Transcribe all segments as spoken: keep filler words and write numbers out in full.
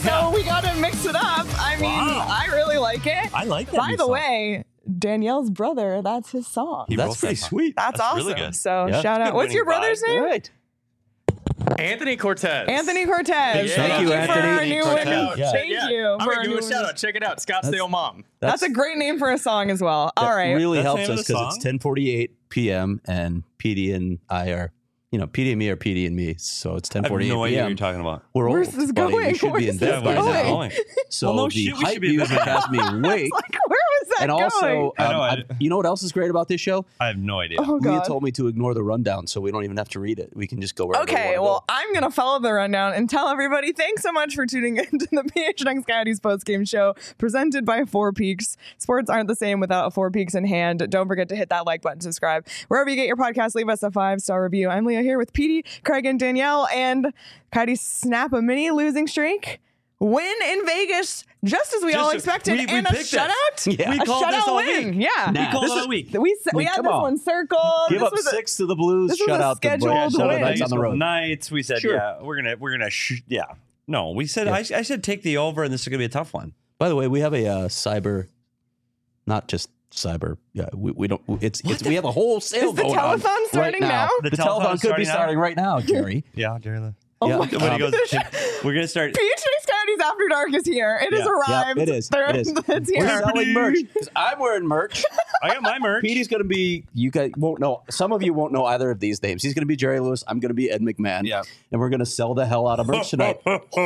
so Yeah. we got to mix it up. I mean, Wow. I really like it. I like that. By new the song. way, Danielle's brother, that's his song. He That's wrote pretty that song. sweet. That's, That's awesome. really good. So Yeah. shout out. Good What's your winning brother's vibe. name? Right. Anthony Cortez. Anthony Cortez. Yeah. Thank Thank you you, for Anthony our new Cortez. winning. Yeah. Thank Yeah. you. I'm for gonna our give new a shout winning- out. Check it out. Scottsdale Mom. That's a great name for a song as well. All That right. really That's the helps name of us the because it's song? ten forty-eight p.m. and P D and I are, you know, P D and me are P D and me. So it's I have ten forty-eight no idea what p.m. you're talking about. We're Where's old, this buddy. going? We should be Where's in this bed by going? now. going? So Well, no the shit, we should hype be in music bed. has me awake. Like, where was that And going? also, I um, know, I- I- you know what else is great about this show? I have no idea. oh, Leah God. told me to ignore the rundown, so we don't even have to read it. We can just go wherever we Okay, wanna well, go. I'm going to follow the rundown and tell everybody thanks so much for tuning into the P H N X Coyotes postgame show presented by Four Peaks. Sports aren't the same without Four Peaks in hand. Don't forget to hit that like button, subscribe. Wherever you get your podcast, leave us a five-star review. I'm Leah here with Petey, Craig, and Danielle, and Coyotes snap a mini losing streak. Win in Vegas, just as we Just all a- expected, we- we and a picked this. shutout. Yeah. We A called this shutout all win. week. Yeah. Nah. We called This it is- all week. We, s- I we mean, had come this on. one circled. Give This up was a- six to the Blues. this was Shut a out the scheduled Blues. Yeah, Shut out win. the Knights on the road. Knights. We said, Sure. yeah, we're gonna, we're gonna, sh- yeah. No, we said, Yeah. I, I said, take the over, and this is gonna be a tough one. By the way, we have a uh, cyber, not just cyber. Yeah, we, we don't. It's it's we have a whole sale Is the going on telethon starting right now. now? The, The telethon telethon's could be starting now? starting right now, Jerry. Yeah, Jerry. Lynn. Oh Yeah. my Um, When he God. goes, we're gonna start. P H X Coyotes After Dark is here. It has Yeah. arrived. Yeah, it is. They're- It is. It's We're here. selling merch. 'Cause I'm wearing merch. I got my merch. Petey's going to be. You guys won't know. Some of you won't know either of these names. He's going to be Jerry Lewis. I'm going to be Ed McMahon. Yeah. And we're going to sell the hell out of merch tonight.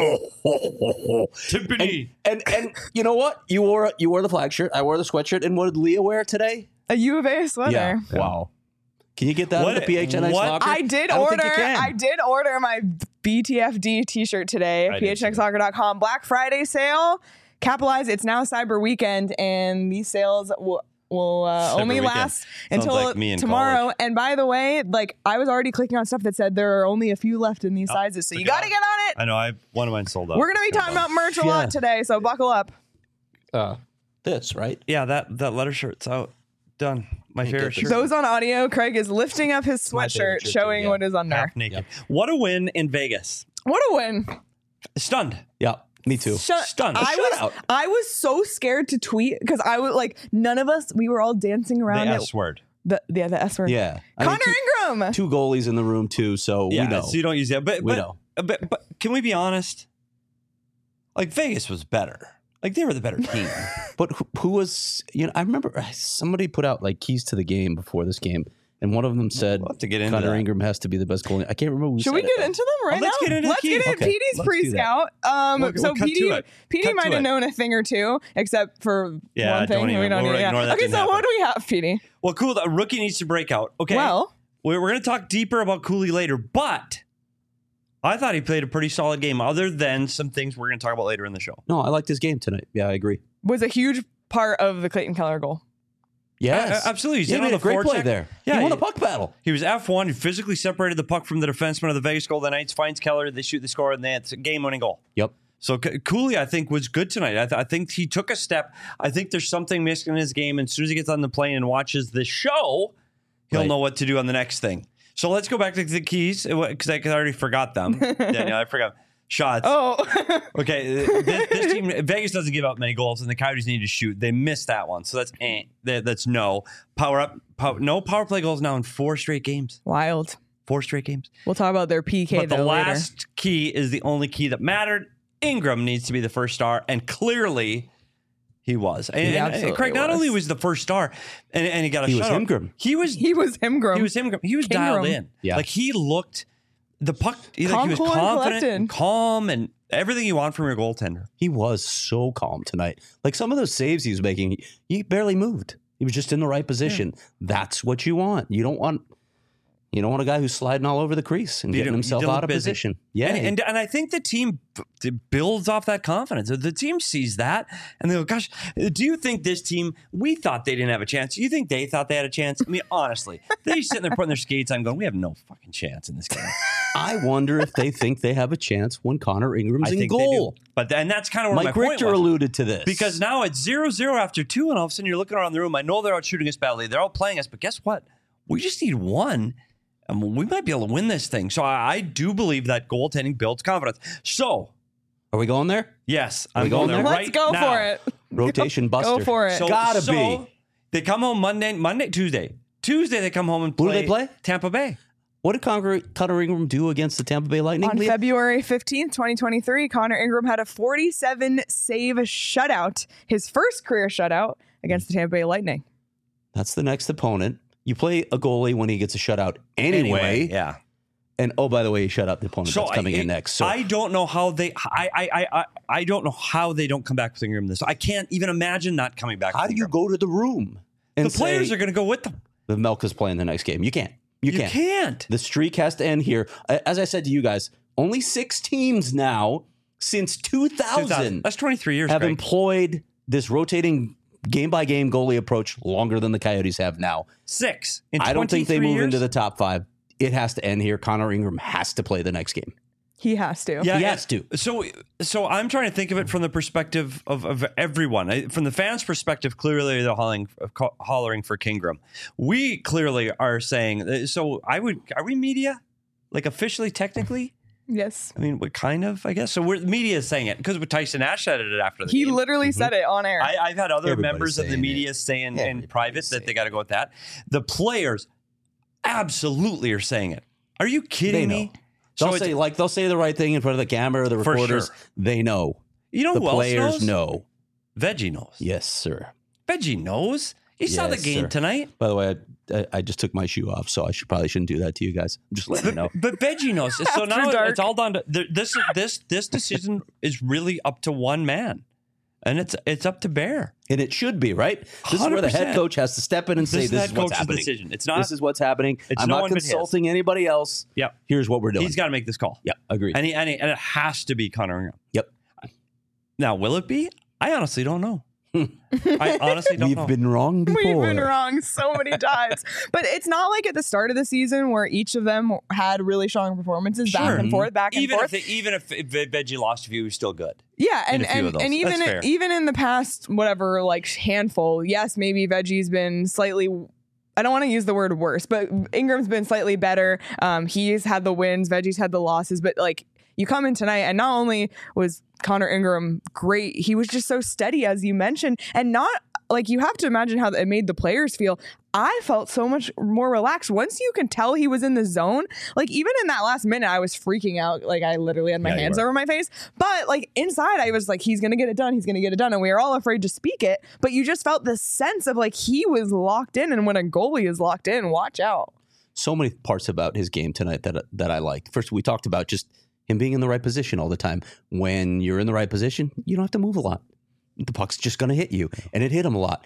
Tiffany. And and you know what? You wore you wore the flag shirt. I wore the sweatshirt. And what did Leah wear today? A U of A sweater. Wow. Can you get that What- in the P H N X what- locker? I did I don't order. think you can. I did order my B T F D T-shirt today. I did P H X locker dot com Black Friday sale. Capitalize. It's now Cyber Weekend, and these sales will will uh, Cyber only Weekend. last Sounds until like me in tomorrow. college. And by the way, like I was already clicking on stuff that said there are only a few left in these sizes, so you look at got to that. get on it. I know. I one of mine sold out. We're gonna be talking about merch a Yeah. lot today, so buckle up. uh, this, right? Yeah, that that letter shirt's out. Done. My Can't favorite get this. shirt. Those on audio, Craig is lifting up his my favorite sweatshirt, shirt, showing too, yeah. what is under. Half naked. What a win in Vegas. What a win! Stunned. Yeah, me too. Shut, Stunned. I A was shutout. I was so scared to tweet because I was like, none of us. We were all dancing The around it. S word. The yeah, the S word. Yeah. I mean, Connor two, Ingram. two goalies in the room too, so Yeah, we know. so you don't use that. But We but, know. but but can we be honest? Like Vegas was better. Like they were the better team. But who, who was, you know, I remember somebody put out like keys to the game before this game, and one of them said We'll have to get into Connor that. Ingram has to be the best goalie. I can't remember who Should said we it, get though. into them right Oh, let's now? get into the let's keys. get into Okay, Petey's let's do pre-scout. Um, We'll- so we'll cut to Petey, it. Petey Cut might to have it. known a thing or two, except for Yeah, one thing. don't even- we don't we'll need. Yeah. ignore that Okay, didn't so what happen. do we have, Petey? Well, cool. The rookie needs to break out. Okay. Well, we're, we're going to talk deeper about Cooley later, but I thought he played a pretty solid game, other than some things we're going to talk about later in the show. No, I liked his game tonight. Yeah, I agree. was a huge part of the Clayton Keller goal. Yes, Uh, absolutely. He's Yeah, in he on made the a great play forecheck. there. Yeah, he won he- a puck battle. He was F one. He physically separated the puck from the defenseman of the Vegas Golden Knights, finds Keller, they shoot, they score, and that's a game-winning goal. Yep. So C- Cooley, I think, was good tonight. I, th- I think he took a step. I think there's something missing in his game. And as soon as he gets on the plane and watches the show, he'll Right. know what to do on the next thing. So let's go back to the keys because I, 'cause I already forgot them. Danielle, I forgot. Shots. Oh, Okay, this, this team, Vegas doesn't give up many goals, and the Coyotes need to shoot. They missed that one, so that's eh, that, that's no power up. Power, no power play goals now in four straight games. wild. Four straight games. We'll talk about their P K But the though later. last key is the only key that mattered. Ingram needs to be the first star, and clearly he was. And, He and- and absolutely Craig not was. only was the first star, and, and he got a He was shutout, Ingram. He was He was him, Grum. he was him. He was King dialed Grum. in. Yeah. Like he looked the puck. He, like, Calm, he was cool, and confident, collected. and calm, and everything you want from your goaltender. He was so calm tonight. Like some of those saves he was making, he, he barely moved. He was just in the right position. That's what you want. You don't want you don't want a guy who's sliding all over the crease and You getting don't- himself you don't out look of busy. position. Yeah. And, and and I think the team b- builds off that confidence. The team sees that and they go, gosh, do you think this team, we thought they didn't have a chance. Do you think they thought they had a chance? I mean, honestly, they're sitting there putting their skates on going, we have no fucking chance in this game. I wonder if they think they have a chance when Connor Ingram's I in think goal. they do. But and that's kind of where Mike my point Richter was. alluded to this. Because now it's zero zero after two, and all of a sudden you're looking around the room. I know they're out shooting us badly. They're all playing us, but guess what? We just need one, and we might be able to win this thing. So I, I do believe that goaltending builds confidence. So Are we going there? Yes, Are we I'm going going there there? Let's right go now. for it. Rotation go, buster. Go for it. So, Gotta so be. They come home Monday, Monday, Tuesday. Tuesday they come home and play. Who do they play? Tampa Bay. What did Connor, Connor Ingram do against the Tampa Bay Lightning? On Leah? February fifteenth, twenty twenty-three, Connor Ingram had a forty-seven save shutout, his first career shutout against the Tampa Bay Lightning. That's the next opponent. You play a goalie when he gets a shutout anyway. yeah. And oh, by the way, he shut out the opponent that's coming I, in next. So I don't know how they. I, I I I I don't know how they don't come back with Ingram this. I can't even imagine not coming back. how with do you Ingram. go to the room and The players say, are going to go with them. the Melka's playing the next game? You can't. You, You can't. can't. The streak has to end here. As I said to you guys, only six teams now since two thousand That's twenty-three years. have Greg. employed this rotating game by game goalie approach longer than the Coyotes have now. Six. In I don't think they twenty-three move years? into the top five. It has to end here. Connor Ingram has to play the next game. He has to. Yeah, He and- has to. So, so I'm trying to think of it from the perspective of, of everyone. I- From the fans' perspective, clearly they're hollering, hollering for Kingram. We clearly are saying. So, I would. Are we media? Like officially, technically? Yes. I mean, what kind of? I guess so. We're media is saying it because Tyson Ash said it after the He game. literally said it on air. I, I've had other Everybody's members of the saying media it. saying in Everybody's private saying that they got to go with that. The players absolutely are saying it. Are you kidding They me? know. They'll it's- say like they'll say the right thing in front of the camera or the For reporters. sure. They know. You know The who else players knows? know. Veggie knows. Yes, sir. Veggie knows. You saw the Yes, game sir. tonight. By the way, I, I, I just took my shoe off, so I should probably shouldn't do that to you guys. I'm just letting you know. But Veggie knows. So After now dark. it's all done. To, th- this this this decision is really up to one man, and it's it's up to Bear. And it should be, right? This is where the head one hundred percent. coach has to step in and say, This is this the is head what's coach's happening. decision. It's not. This is what's happening. It's I'm no not one but his. consulting anybody else. Yep. Here's what we're doing. He's got to make this call. Yeah, agreed. And he, and, he, and it has to be Connor Ingram. Yep. Now, will it be? I honestly don't know. I honestly don't We've know. been wrong before. We've been wrong so many times. But it's not like at the start of the season where each of them had really strong performances back Sure. and forth, back and even forth. if they, even if Veggie lost a few, he was still good. Yeah, and in a few and, of those. and even That's fair. even in the past, whatever, like handful, yes, maybe Veggie's been slightly. I don't want to use the word worse, but Ingram's been slightly better. Um, he's had the wins, Veggie's had the losses, but like you come in tonight, and not only was Connor Ingram great, he was just so steady, as you mentioned, and not like you have to imagine how it made the players feel. I felt so much more relaxed once you can tell he was in the zone. Like even in that last minute, I was freaking out. Like I literally had my Yeah, you hands were. over my face. But like inside, I was like, he's gonna get it done. He's gonna get it done. And we were all afraid to speak it. But you just felt this sense of like he was locked in. And when a goalie is locked in, watch out. So many parts about his game tonight that that I liked. First, we talked about just him being in the right position all the time. When you're in the right position, you don't have to move a lot. The puck's just going to hit you. And it hit him a lot.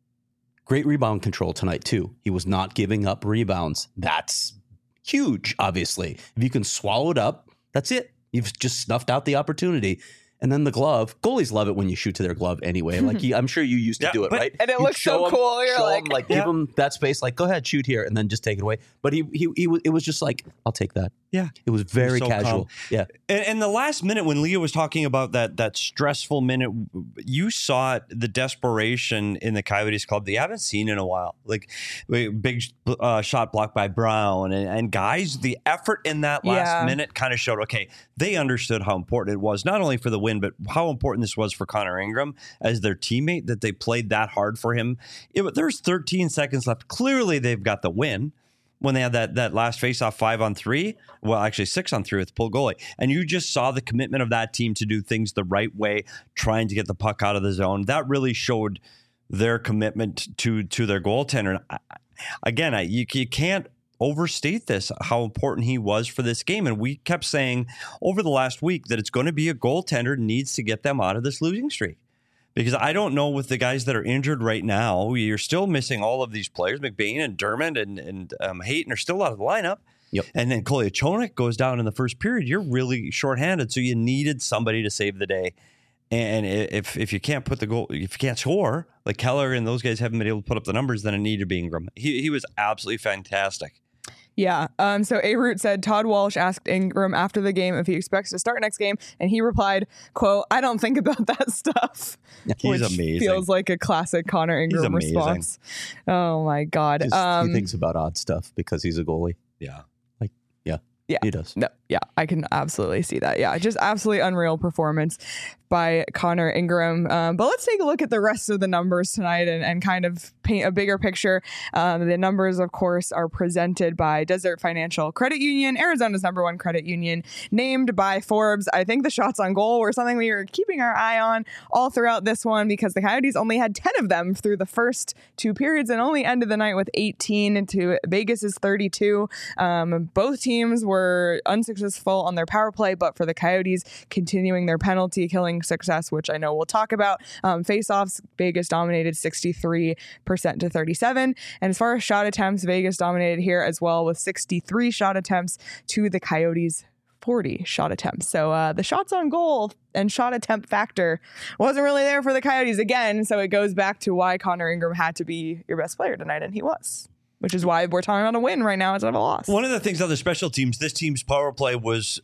Great rebound control tonight, too. He was not giving up rebounds. That's huge, obviously. If you can swallow it up, that's it. You've just snuffed out the opportunity. And then the glove. Goalies love it when you shoot to their glove anyway. Like you, I'm sure you used to Yeah, do it, but- right? And it You'd looks so show 'em- cool. You're show 'em, like- like Yeah. give him that space. Like, go ahead, shoot here, and then just take it away. But he, he, he was. It was just like, I'll take that. Yeah. It was very so casual. calm. Yeah. And, and the last minute when Leah was talking about that that stressful minute, you saw it, the desperation in the Coyotes club that you haven't seen in a while. Like big uh, shot blocked by Brown and, and guys, the effort in that last Yeah. minute kind of showed, okay, they understood how important it was, not only for the win, but how important this was for Connor Ingram as their teammate, that they played that hard for him. It, there's thirteen seconds left. Clearly they've got the win. When they had that that last face-off five on three, well, actually six on three with the pull goalie, and you just saw the commitment of that team to do things the right way, trying to get the puck out of the zone. That really showed their commitment to to their goaltender. And I, again, I, you you can't overstate this, how important he was for this game. And we kept saying over the last week that it's going to be a goaltender needs to get them out of this losing streak. Because I don't know with the guys that are injured right now, you're still missing all of these players. McBain and Dermott and, and um, Hayton are still out of the lineup. Yep. And then Kolyachonok goes down in the first period. You're really shorthanded. So you needed somebody to save the day. And if if you can't put the goal, if you can't score, like Keller and those guys haven't been able to put up the numbers, then it needed to be Ingram. He, he was absolutely fantastic. Yeah. Um, so A-Root said Todd Walsh asked Ingram after the game if he expects to start next game, and he replied, quote, I don't think about that stuff. He's which amazing. Feels like a classic Connor Ingram amazing. response. Oh, my God. Just, Um, he thinks about odd stuff because he's a goalie. Yeah. Like, yeah. Yeah. He does. No, Yeah, I can absolutely see that. Yeah, just absolutely unreal performance by Connor Ingram. Um, but let's take a look at the rest of the numbers tonight and, and kind of paint a bigger picture. Um, the numbers, of course, are presented by Desert Financial Credit Union, Arizona's number one credit union, named by Forbes. I think the shots on goal were something we were keeping our eye on all throughout this one because the Coyotes only had ten of them through the first two periods and only ended the night with eighteen to Vegas's thirty-two. Um, both teams were unsuccessful on their power play, but for the Coyotes, continuing their penalty killing success, which I know we'll talk about. Um, face-offs, Vegas dominated sixty-three percent to thirty-seven. And as far as shot attempts, Vegas dominated here as well with sixty-three shot attempts to the Coyotes' forty shot attempts. So uh, the shots on goal and shot attempt factor wasn't really there for the Coyotes again. So it goes back to why Connor Ingram had to be your best player tonight, and he was. Which is why we're talking about a win right now instead of a loss. One of the things on the special teams, this team's power play was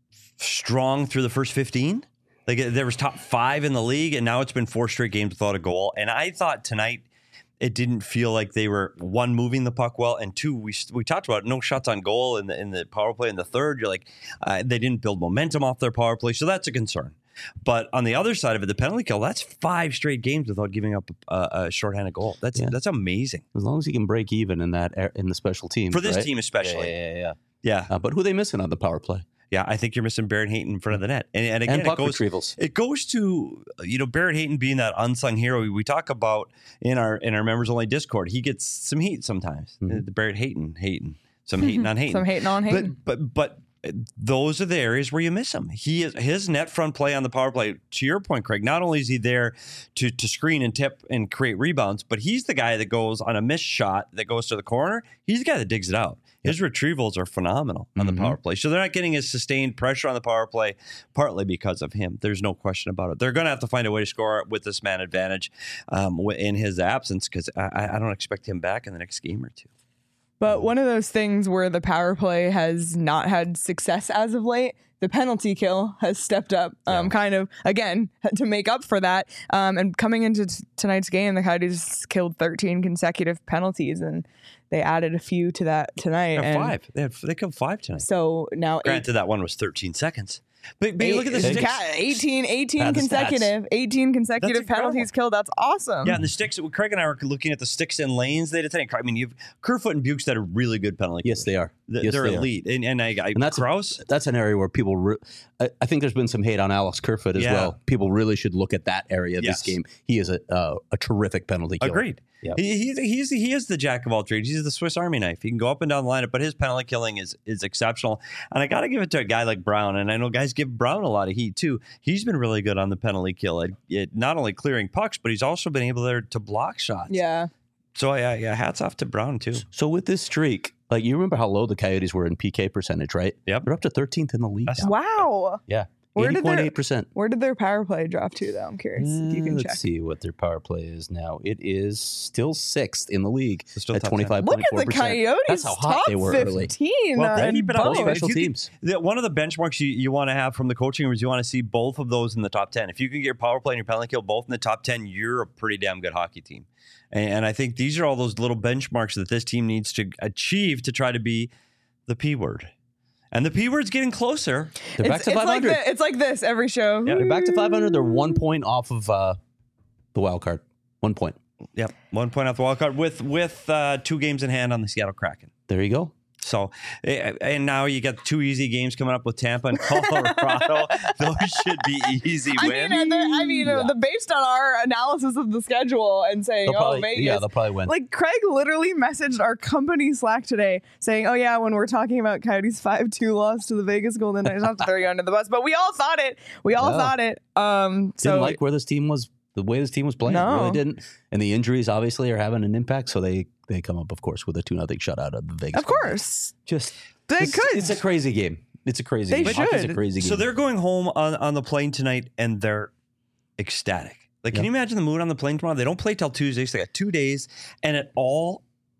strong through the first fifteen. Like there was top five in the league, and now it's been four straight games without a goal. And I thought tonight it didn't feel like they were, one, moving the puck well, and two, we we talked about no shots on goal in the in the power play in the third. You're like, uh, they didn't build momentum off their power play, so that's a concern. But on the other side of it, the penalty kill, that's five straight games without giving up a, a shorthanded goal. That's Yeah. that's amazing. As long as he can break even in that ar- in the special teams. For this right? team especially. Yeah, yeah, yeah. Yeah. Uh, but who are they missing on the power play? Yeah, I think you're missing Barrett Hayton in front of the net. And, and again, And puck it goes retrievals. it goes to, you know, Barrett Hayton being that unsung hero we, we talk about in our in our members only Discord. He gets some heat sometimes. Mhm. The Barrett Hayton, Hayton, some hating on Hayton. Some hating on Hayton. But but but those are the areas where you miss him. He is his net front play on the power play. To your point, Craig, not only is he there to to screen and tip and create rebounds, but he's the guy that goes on a missed shot that goes to the corner. He's the guy that digs it out. His retrievals are phenomenal on Mhm. the power play. So they're not getting as sustained pressure on the power play, partly because of him. There's no question about it. They're going to have to find a way to score with this man advantage um, in his absence because I, I don't expect him back in the next game or two. But one of those things where the power play has not had success as of late, the penalty kill has stepped up, um, Yeah. kind of, again, to make up for that. Um, and coming into t- tonight's game, the Coyotes killed thirteen consecutive penalties, and they added a few to that tonight. They have and five. They, had, they killed five tonight. So now eight, Granted, that one was thirteen seconds. But, but you look at the eight- sticks. Ca- eighteen, eighteen Bad stats. consecutive, eighteen consecutive That's incredible. penalties killed. That's awesome. Yeah, and the sticks, Craig and I were looking at the sticks and lanes they did today. I mean, you've Kerfoot and Bukes that are really good penalty Yes, killers. they are. Th- Yes, They're they are. elite. And, and I, I And that's Krause, that's an area where people. Re- I, I think there's been some hate on Alex Kerfoot as Yeah. well. People really should look at that area of Yes. this game. He is a uh, a terrific penalty killer. agreed. Yep. He, he's, he's, he is the jack of all trades. He's the Swiss Army knife. He can go up and down the lineup, but his penalty killing is is exceptional. And I got to give it to a guy like Brown. And I know guys give Brown a lot of heat too. He's been really good on the penalty kill. It, it, not only clearing pucks, but he's also been able there to block shots. Yeah. So yeah, yeah, hats off to Brown too. So with this streak, like you remember how low the Coyotes were in P K percentage, right? Yep. They're up to thirteenth in the league. That's- now. Wow. Yeah, Where eighty did point their- eight percent. Where did their power play drop to, though? I'm curious if you can Let's check. see what their power play is now. It is still sixth in the league So still at top ten. twenty five Look point at four the percent. Coyotes That's how hot top they were early. fifteen. Well, uh, they in keep it up. both. Both special If you teams. could- the- one of the benchmarks you, you want to have from the coaching room is you want to see both of those in the top ten. If you can get your power play and your penalty kill both in the top ten, you're a pretty damn good hockey team. And, and I think these are all those little benchmarks that this team needs to achieve to try to be the P word. And the P word's getting closer. They're back It's, to it's five like hundred. the, it's like this every show. They're back to five hundred. They're one point off of uh, the wild card. One point. Yep, one point off the wild card with with uh, two games in hand on the Seattle Kraken. There you go. So, eh, and now you got two easy games coming up with Tampa and Colorado. Those should be easy I wins. mean, and the, I mean, uh, Yeah. the based on our analysis of the schedule and saying, They'll "Oh, probably, Vegas." yeah, they'll probably win. Like Craig literally messaged our company Slack today saying, "Oh yeah, when we're talking about Coyotes five two loss to the Vegas Golden Knights, not to throw you under the bus, but we all thought it. We all Yeah. thought it." Um, so didn't like where this team was, the way this team was playing. No. Really didn't. And the injuries obviously are having an impact. So they they come up, of course, with a two nothing shutout of the Vegas. of course Just they it's, could. It's a crazy game. It's a crazy They game. Hockey's should. a crazy game. So they're going home on, on the plane tonight and they're ecstatic. Like, can Yep. you imagine the mood on the plane tomorrow? They don't play till Tuesday, so they got two days, and it all,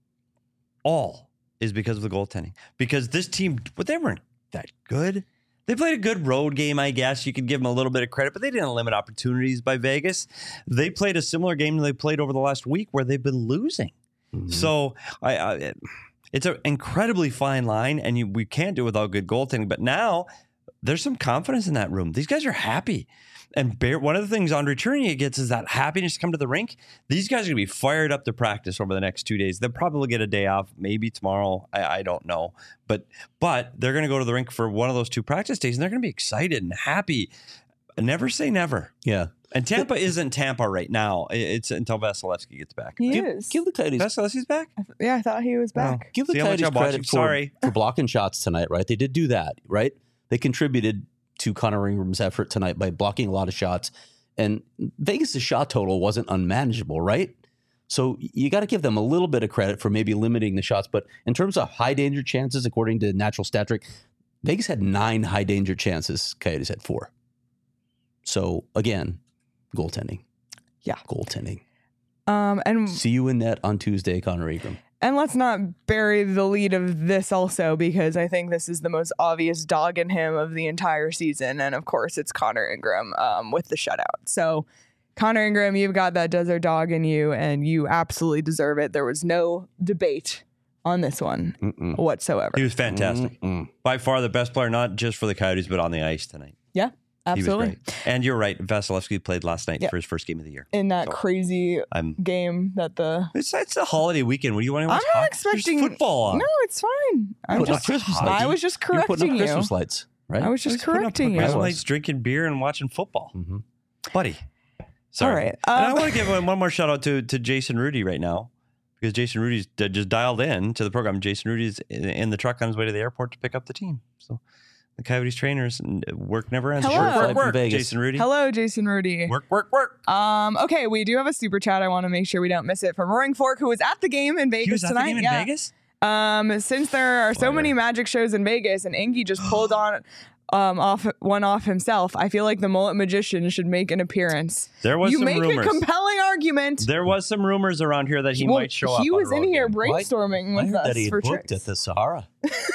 all is because of the goaltending. Because this team, but they weren't that good. They played a good road game, I guess. You could give them a little bit of credit, but they didn't limit opportunities by Vegas. They played a similar game they played over the last week where they've been losing. Mhm. So I, I It's an incredibly fine line, and you, we can't do it without good goaltending. But now there's some confidence in that room. These guys are happy. And Bear, one of the things Andre Tournier gets is that happiness to come to the rink. These guys are going to be fired up to practice over the next two days. They'll probably get a day off, maybe tomorrow. I, I don't know. But but they're going to go to the rink for one of those two practice days, and they're going to be excited and happy. Never say never. Yeah. And Tampa isn't Tampa right now. It's until Vasilevsky gets back. He Give, is. give the Coyotes Vasilevsky's back? Yeah, I thought he was back. Give the See how much Coyotes I'm watching? credit for, Sorry. for blocking shots tonight, right? They did do that, right? They contributed to Connor Ingram's effort tonight by blocking a lot of shots. And Vegas' shot total wasn't unmanageable, right? So you got to give them a little bit of credit for maybe limiting the shots. But in terms of high danger chances, according to Natural Stat Trick, Vegas had nine high danger chances. Coyotes had four. So again, goaltending. Yeah. Goaltending. Um, and See you in net on Tuesday, Connor Ingram. And let's not bury the lead of this also, because I think this is the most obvious dog in him of the entire season. And of course, it's Connor Ingram um, with the shutout. So, Connor Ingram, you've got that desert dog in you, and you absolutely deserve it. There was no debate on this one Mm-mm. whatsoever. He was fantastic. Mm-mm. By far the best player, not just for the Coyotes, but on the ice tonight. Yeah, absolutely. He was great. And you're right. Vasilevsky played last night Yeah. for his first game of the year. In that So, crazy I'm. game that the... It's it's a holiday weekend. What do you want to I'm watch? not hockey? expecting... There's football on. No, it's fine. I'm Putting up just, Christmas hot. lights. I was just You're putting correcting up you. Christmas lights, right? I was just Just putting up correcting you. Christmas I was. lights, drinking beer, and watching football, Mm-hmm. buddy. Sorry. All right, and I um, want to give one one more shout out to to Jason Rudy right now, because Jason Rudy's d- just dialed in to the program. Jason Rudy's in, in the truck on his way to the airport to pick up the team. So the Coyotes trainers, and work never ends. Hello. Work, Flight work, from work. Vegas. Jason Rudy. Hello, Jason Rudy. Work, work, work. Um, okay, we do have a super chat. I want to make sure we don't miss it from Roaring Fork, who was at the game in Vegas He was at tonight. the game in yeah. Vegas. Um, since there are so Fire. many Magic shows in Vegas, and Engie just pulled on um off one off himself, I feel like the Mullet Magician should make an appearance. There was you some make rumors. a compelling argument. There was some rumors around here that he Well, might show up. He on was a in road here game. brainstorming I with heard us that he had for booked trips. at the Sahara.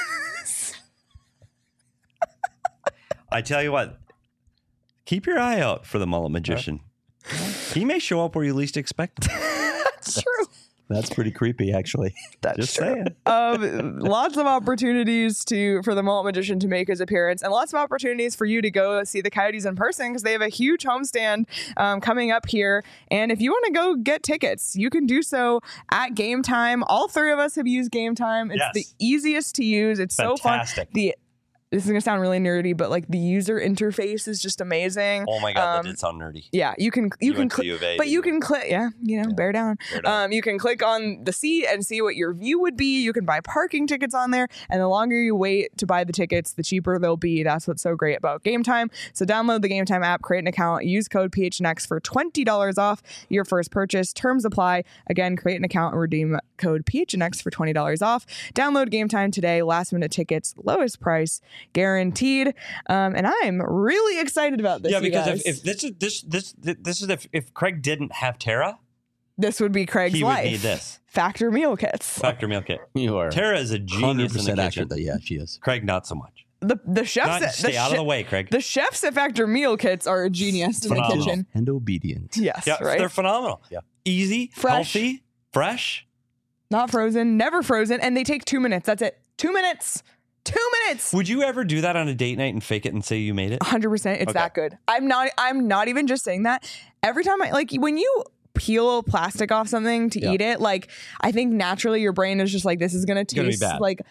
I tell you what, keep your eye out for the Mullet Magician. He may show up where you least expect him. That's true. That's pretty creepy, actually. That's Just true. saying. Um, lots of opportunities to for the Mullet Magician to make his appearance, and lots of opportunities for you to go see the Coyotes in person, because they have a huge homestand um, coming up here. And if you want to go get tickets, you can do so at Game Time. All three of us have used Game Time. It's Yes. the easiest to use. It's so fun. Fantastic. The This is gonna sound really nerdy, but like the user interface is just amazing. Oh my god, Um, that did sound nerdy. Yeah, you can you, You can went to click, U of A, but didn't you you? can click. Yeah, you know, bear down. Bear down. Um, you can click on the seat and see what your view would be. You can buy parking tickets on there, and the longer you wait to buy the tickets, the cheaper they'll be. That's what's so great about Game Time. So download the Game Time app, create an account, use code P H N X for twenty dollars off your first purchase. Terms apply. Again, create an account and redeem code P H N X for twenty dollars off. Download Game Time today. Last minute tickets, lowest price guaranteed. Um, and I'm really excited about this. Yeah, you because guys. if, if this is this this this is if, if Craig didn't have Tara, This would be Craig's he would life. need this Factor meal kits. factor meal kit. You are Tara is a one genius hundred in the percent kitchen. accurate. That, yeah, she is. Craig, not so much. The the chefs Not, at, stay the, out che- of the way, Craig. the chefs at Factor meal kits are a genius in the Phenomenal. kitchen. And obedient. Yes, yeah, right. they're phenomenal. Yeah. Easy, Fresh. healthy, fresh. Not frozen, never frozen, and they take two minutes. That's it. Two minutes. Two minutes. Would you ever do that on a date night and fake it and say you made it? one hundred percent. It's Okay. that good. I'm not. I'm not even just saying that. Every time I like when you peel plastic off something to Yeah. eat it, like I think naturally your brain is just like, this is gonna gonna be taste bad. like.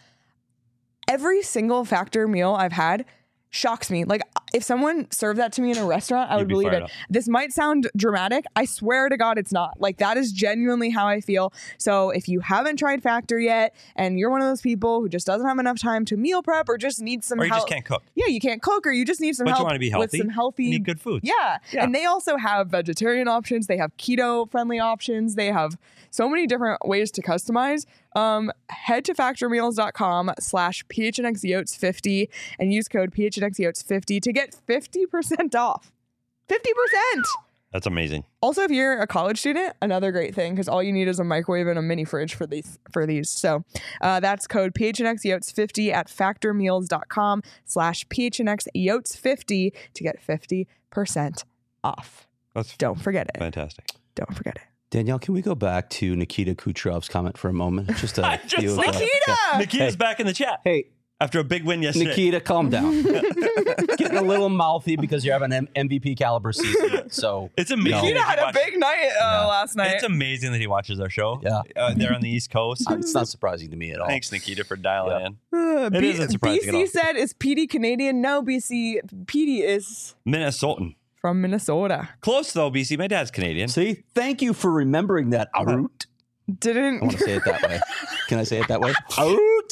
Every single Factor meal I've had shocks me. Like if someone served that to me in a restaurant, I You'd would be believe fired it. up. This might sound dramatic. I swear to God, it's not. Like that is genuinely how I feel. So if you haven't tried Factor yet, and you're one of those people who just doesn't have enough time to meal prep or just needs some Or you help, just can't cook. yeah, you can't cook, or you just need some But you help wanna be with healthy. some healthy, You need good foods. Yeah. Yeah. And they also have vegetarian options. They have keto friendly options. They have so many different ways to customize. Um, head to factormeals.com slash PHNXYotes50 and use code PHNXYotes50 to get fifty percent off. fifty percent! That's amazing. Also, if you're a college student, another great thing, because all you need is a microwave and a mini fridge for these. For these, so uh, that's code P H N X Yotes fifty at factormeals.com slash P H N X Yotes fifty to get fifty percent off. That's Don't forget it. fantastic. Don't forget it. Danielle, can we go back to Nikita Kucherov's comment for a moment? Just a I just few of saw the- Nikita! Nikita's Hey. back in the chat Hey, after a big win yesterday. Nikita, calm down. Getting a little mouthy because you're having an M V P caliber season. So It's amazing. No. Nikita that he had a watched- big night uh, last night. It's amazing that he watches our show. Yeah. Uh, they're on the East Coast. it's not surprising to me at all. Thanks, Nikita, for dialing Yeah. in. Uh, It isn't surprising at all. B C said, is P D Canadian? No, B C. P D is Minnesotan. from Minnesota. Close, though, B C. My dad's Canadian. See, thank you for remembering that. Arut. Didn't. I want to say it that way. Can I say it that way? Arut.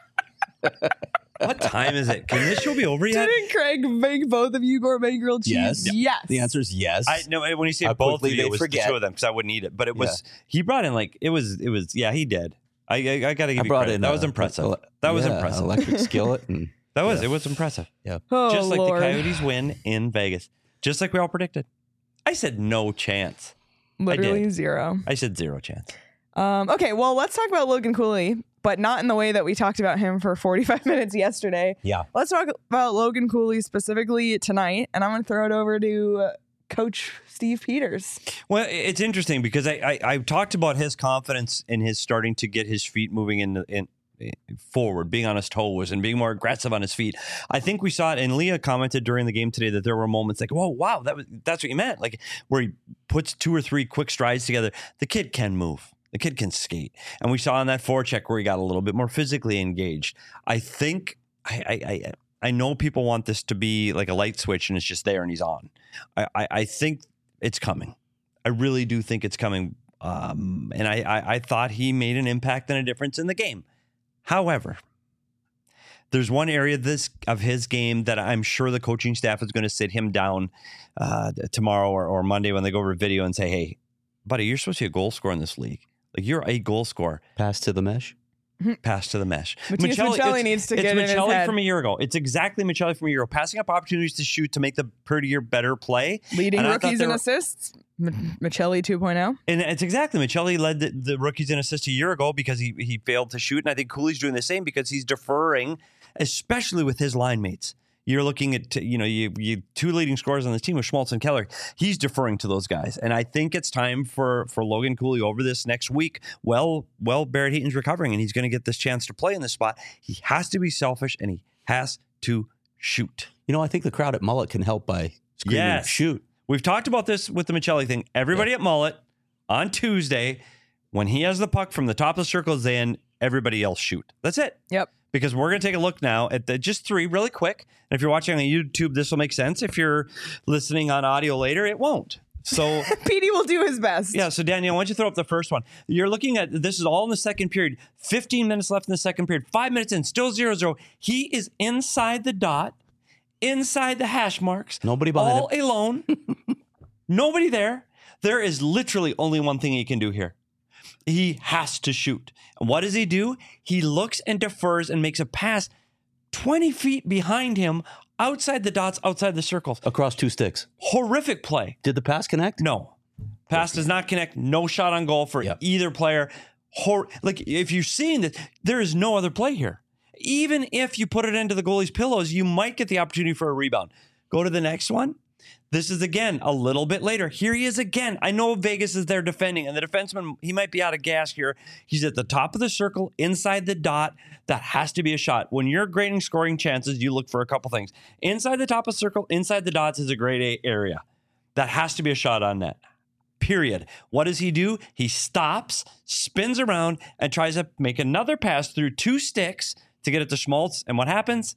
What time is it? Can this show be over yet? Didn't Craig make both of you gourmet grilled cheese? Yes. Yes. The answer is yes. I no. When you say How both of quickly you, they it was forget. the two of them because I wouldn't eat it. But it was he brought in like it was it was yeah he did. I I, I got to give I you brought credit. in That a- was impressive. a- that was yeah, impressive. Electric skillet and That was yeah. it was impressive. Oh, Just like Lord. the Coyotes win in Vegas, just like we all predicted. I said no chance. Literally did. zero. I said zero chance. Um, okay, well, let's talk about Logan Cooley, but not in the way that we talked about him for forty-five minutes yesterday. Yeah. Let's talk about Logan Cooley specifically tonight, and I'm going to throw it over to uh, Coach Steve Peters. Well, it's interesting because I, I I talked about his confidence in his starting to get his feet moving in in forward, being on his toes and being more aggressive on his feet. I think we saw it, and Leah commented during the game today that there were moments like, "Whoa, wow, that was that's what you meant," like where he puts two or three quick strides together. The kid can move. The kid can skate, and we saw on that forecheck where he got a little bit more physically engaged. I think I I. I I know people want this to be like a light switch and it's just there and he's on. I, I, I think it's coming. I really do think it's coming. Um, and I, I, I thought he made an impact and a difference in the game. However, there's one area this of his game that I'm sure the coaching staff is going to sit him down uh, tomorrow or, or Monday when they go over video and say, hey, buddy, you're supposed to be a goal scorer in this league. Like you're a goal scorer. pass to the mesh. Pass to the mesh. Matias Michelli it's- needs to it's get in his Michelli head. from a year ago. It's exactly Michelli from a year ago. Passing up opportunities to shoot to make the prettier, better play. Leading And I thought rookies they in were- assists, M- Michelli two point oh. And it's exactly Michelli led the, the rookies in assists a year ago because he he failed to shoot, and I think Cooley's doing the same because he's deferring, especially with his line mates. You're looking at you know you you two leading scorers on this team with Schmaltz and Keller. He's deferring to those guys, and I think it's time for for Logan Cooley over this next week. Well, well, Barrett Heaton's recovering, and he's going to get this chance to play in this spot. He has to be selfish, and he has to shoot. You know, I think the crowd at Mullet can help by screaming, Yes. shoot. We've talked about this with the Michelli thing. Everybody at Mullet on Tuesday, when he has the puck from the top of the circles, then everybody else shoot. That's it. Yep. Because we're going to take a look now at the just three really quick. And if you're watching on YouTube, this will make sense. If you're listening on audio later, it won't. So, P D will do his best. yeah. So, Danielle, why don't you throw up the first one? You're looking at this is all in the second period. fifteen minutes left in the second period. Five minutes in, still zero zero. He is inside the dot, inside the hash marks. Nobody behind all alone. Nobody there. There is literally only one thing he can do here. He has to shoot. And what does he do? He looks and defers and makes a pass twenty feet behind him, outside the dots, outside the circles. Across two sticks. Horrific play. Did the pass connect? No. Pass does not connect. No shot on goal for Yep. either player. Hor- like, if you're seeing this, there is no other play here. Even if you put it into the goalie's pillows, you might get the opportunity for a rebound. Go to the next one. This is again a little bit later. Here he is again. I know Vegas is there defending, and the defenseman, he might be out of gas here. He's at the top of the circle, inside the dot. That has to be a shot. When you're grading scoring chances, you look for a couple things. Inside the top of the circle, inside the dots is a grade A area. That has to be a shot on net. Period. What does he do? He stops, spins around, and tries to make another pass through two sticks to get it to Schmaltz. And what happens?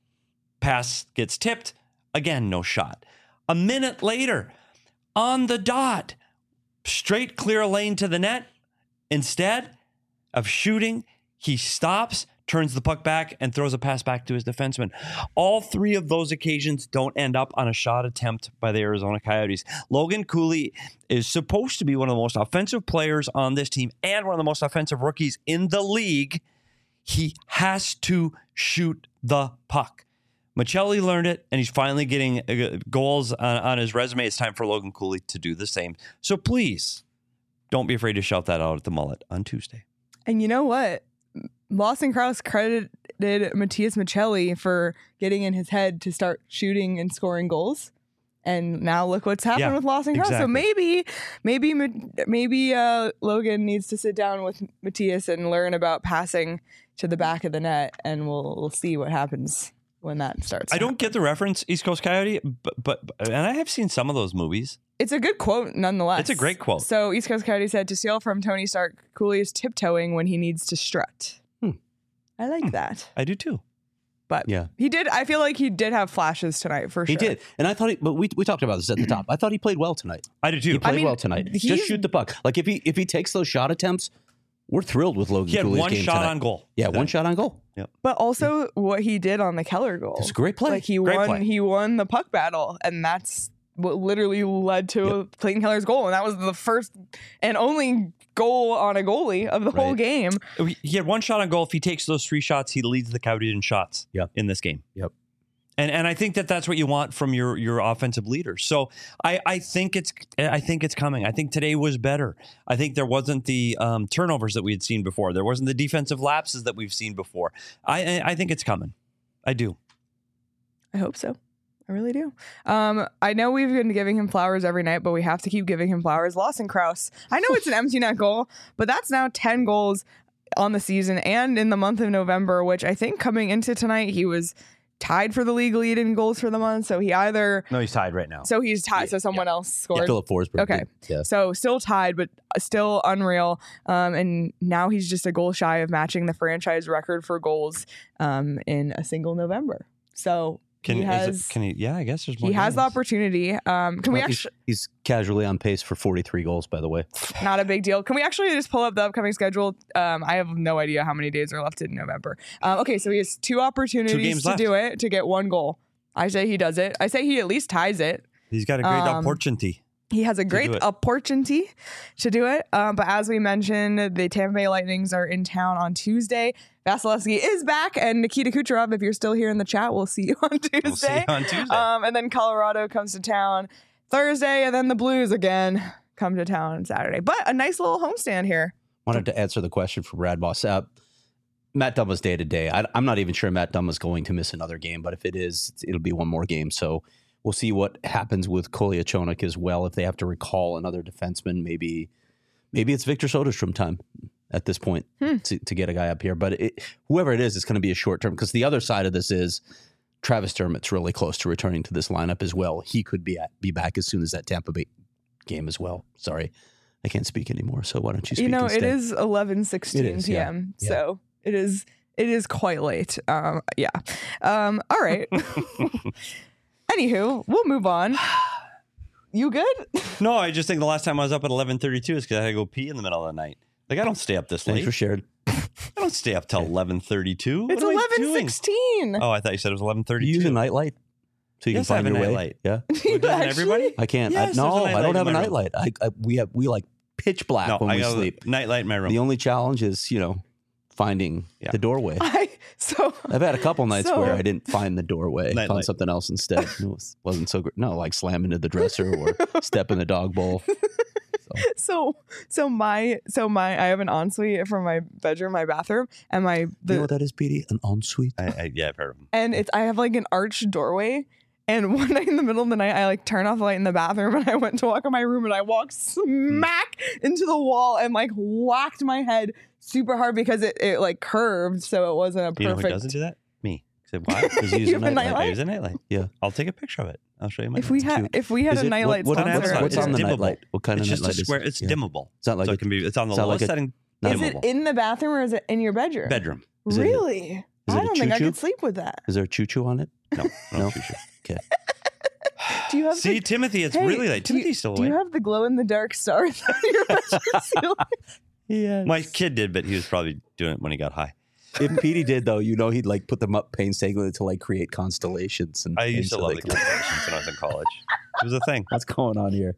Pass gets tipped. Again, no shot. A minute later, on the dot, straight clear lane to the net. Instead of shooting, he stops, turns the puck back, and throws a pass back to his defenseman. All three of those occasions don't end up on a shot attempt by the Arizona Coyotes. Logan Cooley is supposed to be one of the most offensive players on this team and one of the most offensive rookies in the league. He has to shoot the puck. Michelli learned it, and he's finally getting uh, goals on, on his resume. It's time for Logan Cooley to do the same. So please, don't be afraid to shout that out at the Mullet on Tuesday. And you know what? Lawson Krause credited Matias Michelli for getting in his head to start shooting and scoring goals. And now look what's happened Yeah, with Lawson Cross. So exactly. maybe, maybe, Ma- maybe uh, Logan needs to sit down with Matthias and learn about passing to the back of the net, and we'll we'll see what happens when that starts. I to don't happen. get the reference, East Coast Coyote, but, but and I have seen some of those movies. It's a good quote, nonetheless. It's a great quote. So East Coast Coyote said, "To steal from Tony Stark, Cooley is tiptoeing when he needs to strut." Hmm. I like that. I do too. But Yeah. he did. I feel like he did have flashes tonight for He sure. did. And I thought he, but we, we talked about this at the top. I thought he played well tonight. I do He too. played mean, well tonight. he's- Just shoot the puck. Like if he if he takes those shot attempts, we're thrilled with Logan He had Cooley's one game shot tonight. on goal. Yeah, one shot on goal. But also what he did on the Keller goal. It's a great play. Like he Great won. play. He won the puck battle, and that's what literally led to Clayton Keller's goal, and that was the first and only goal on a goalie of the whole Right. game. He had one shot on goal. If he takes those three shots, he leads the Coyotes in shots Yep. in this game. Yep. And and I think that that's what you want from your your offensive leader. So I, I think it's I think it's coming. I think today was better. I think there wasn't the um, turnovers that we had seen before. There wasn't the defensive lapses that we've seen before. I I, I think it's coming. I do. I hope so. I really do. Um, I know we've been giving him flowers every night, but we have to keep giving him flowers. Lawson Krause. I know it's an empty net goal, but that's now ten goals on the season and in the month of November, which I think coming into tonight, he was tied for the league lead in goals for the month. So he either, No, he's tied right now. so he's tied. So someone else Yeah, scored. Philip Forsberg. Okay. did. Yeah. So still tied, but still unreal. Um, and now he's just a goal shy of matching the franchise record for goals um, in a single November. So Can he is has, it, can he? Yeah, I guess there's more. he has the games. opportunity. Um, can we Well, he's, actually, he's casually on pace for forty-three goals, by the way. not a big deal. Can we actually just pull up the upcoming schedule? Um, I have no idea how many days are left in November. Um, okay, so he has two opportunities games to left. do it to get one goal. I say he does it. I say he at least ties it. He's got a great Um, opportunity. He has a great do it. opportunity to do it. Um, but as we mentioned, the Tampa Bay Lightnings are in town on Tuesday. Vasilevsky is back, and Nikita Kucherov, if you're still here in the chat, we'll see you on Tuesday. We'll see you on Tuesday. Um, and then Colorado comes to town Thursday, and then the Blues again come to town on Saturday. But a nice little homestand here. Wanted to answer the question from Brad Boss. Uh, Matt Dumba's day to day. I- I'm not even sure Matt Dumba's going to miss another game, but if it is, it'll be one more game. So we'll see what happens with Kolyachonok as well. If they have to recall another defenseman, maybe maybe it's Victor Soderstrom time at this point Hmm. to, to get a guy up here. But it, whoever it is, it's going to be a short term, because the other side of this is Travis Dermott's really close to returning to this lineup as well. He could be at, be back as soon as that Tampa Bay game as well. Sorry, I can't speak anymore. So why don't you speak You know, instead? it is eleven sixteen It is, yeah. p.m. Yeah. So it is it is quite late. Um, yeah. Um, all right. Anywho, we'll move on. You good? No, I just think the last time I was up at eleven thirty-two is because I had to go pee in the middle of the night. Like I don't stay up this Thanks late. for sharing. I don't stay up till eleven thirty-two. It's eleven sixteen. Oh, I thought you said it was eleven Do you use a thirty-two. nightlight so you Yes, can I find have a your way? nightlight. Yeah, Doesn't everybody? I can't. Yes, I, no, there's a I don't nightlight have a in my room. nightlight. I, I we have we like pitch black No, when I we got sleep. a nightlight in my room. The only challenge is you know finding Yeah. the doorway. I so I've had a couple nights So- where I didn't find the doorway, Nightlight. found something else instead. It was, wasn't so great. No, like slam into the dresser or step in the dog bowl. so so my so my I have an ensuite from my bedroom, my bathroom, and my you know the what that is, Petey? An ensuite. I, I, yeah, I've heard of them. and it's I have like an arched doorway. And one night in the middle of the night, I like turned off the light in the bathroom and I went to walk in my room and I walked smack into the wall and like whacked my head super hard because it, it like curved. So it wasn't a You know who perfect. doesn't do that? Me. I said, why? Because you use You a have a nightlight. nightlight? I use a nightlight. Yeah. I'll take a picture of it. I'll show you my If we nightlight. had if we had Is a it- nightlight what, what, sponsor, what's, on what's It's on the dimmable. nightlight? What kind It's of just a nightlight square. is it? It's Yeah. dimmable. It's not like so a- it can be. It's on the it's not lowest like a- setting. not is it dimmable. in the bathroom or is it in your bedroom? Bedroom. Is it a- Really? is it I a don't think I choo-choo? could sleep with that. Is there a choo choo on it? No. No. No? choo-choo. Okay. Do you have See, the, Timothy, it's Hey, really late. do you- Timothy's still Do you awake. have the glow in the dark stars on your bedroom ceiling? Yeah. My kid did, but he was probably doing it when he got high. If Petey did though, you know he'd like put them up painstakingly to like create constellations and I things used to so love they the could- constellations when I was in college. It was a thing. What's going on here?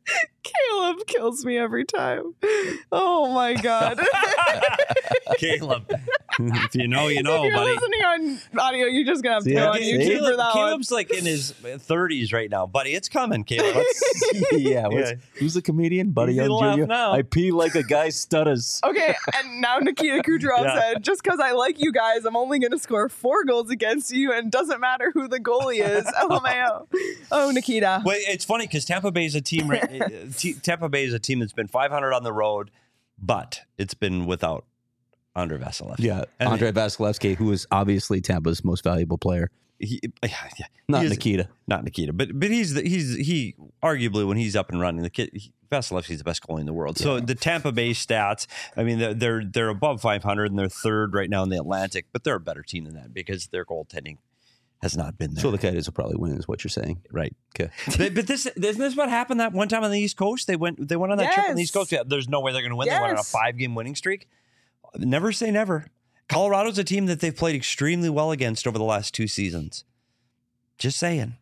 Caleb kills me every time. Oh my god. Caleb. If you know, you know, if you're buddy. listening on audio, you're just gonna have to Yeah, go on see? YouTube Caleb- for that Caleb's like in his thirties right now, buddy. It's coming, Caleb. yeah, what's- Yeah. who's the comedian? Buddy Easy Young to laugh Junior now. I pee like a guy stutters. one. Okay, and now Nikita Kucherov Yeah. said, just because I like you guys, I'm only gonna score four goals against you, and it doesn't matter who the goalie is. L M A O. Oh, Nikita. Well, it's funny because Tampa Bay is a team. right- uh, T- Tampa Bay is a team that's been five hundred on the road, but it's been without Andre Vasilevsky. Yeah, And Andre Vasilevsky, who is obviously Tampa's most valuable player. He, yeah, Not he is- Nikita. Not Nikita, but but he's the, he's he arguably when he's up and running, the kid he, Vasilevsky's the best goalie in the world. So the Tampa Bay stats, I mean, they're they're, they're above five hundred and they're third right now in the Atlantic, but they're a better team than that because their goaltending has not been there. So the Coyotes will probably win, is what you're saying. Right. Okay. but, but this isn't this what happened that one time on the East Coast? They went they went on that trip on the East Yes. Coast. Yeah, there's no way they're going to win. They went on a Yes. five game winning streak. Never say never. Colorado's a team that they've played extremely well against over the last two seasons. Just saying.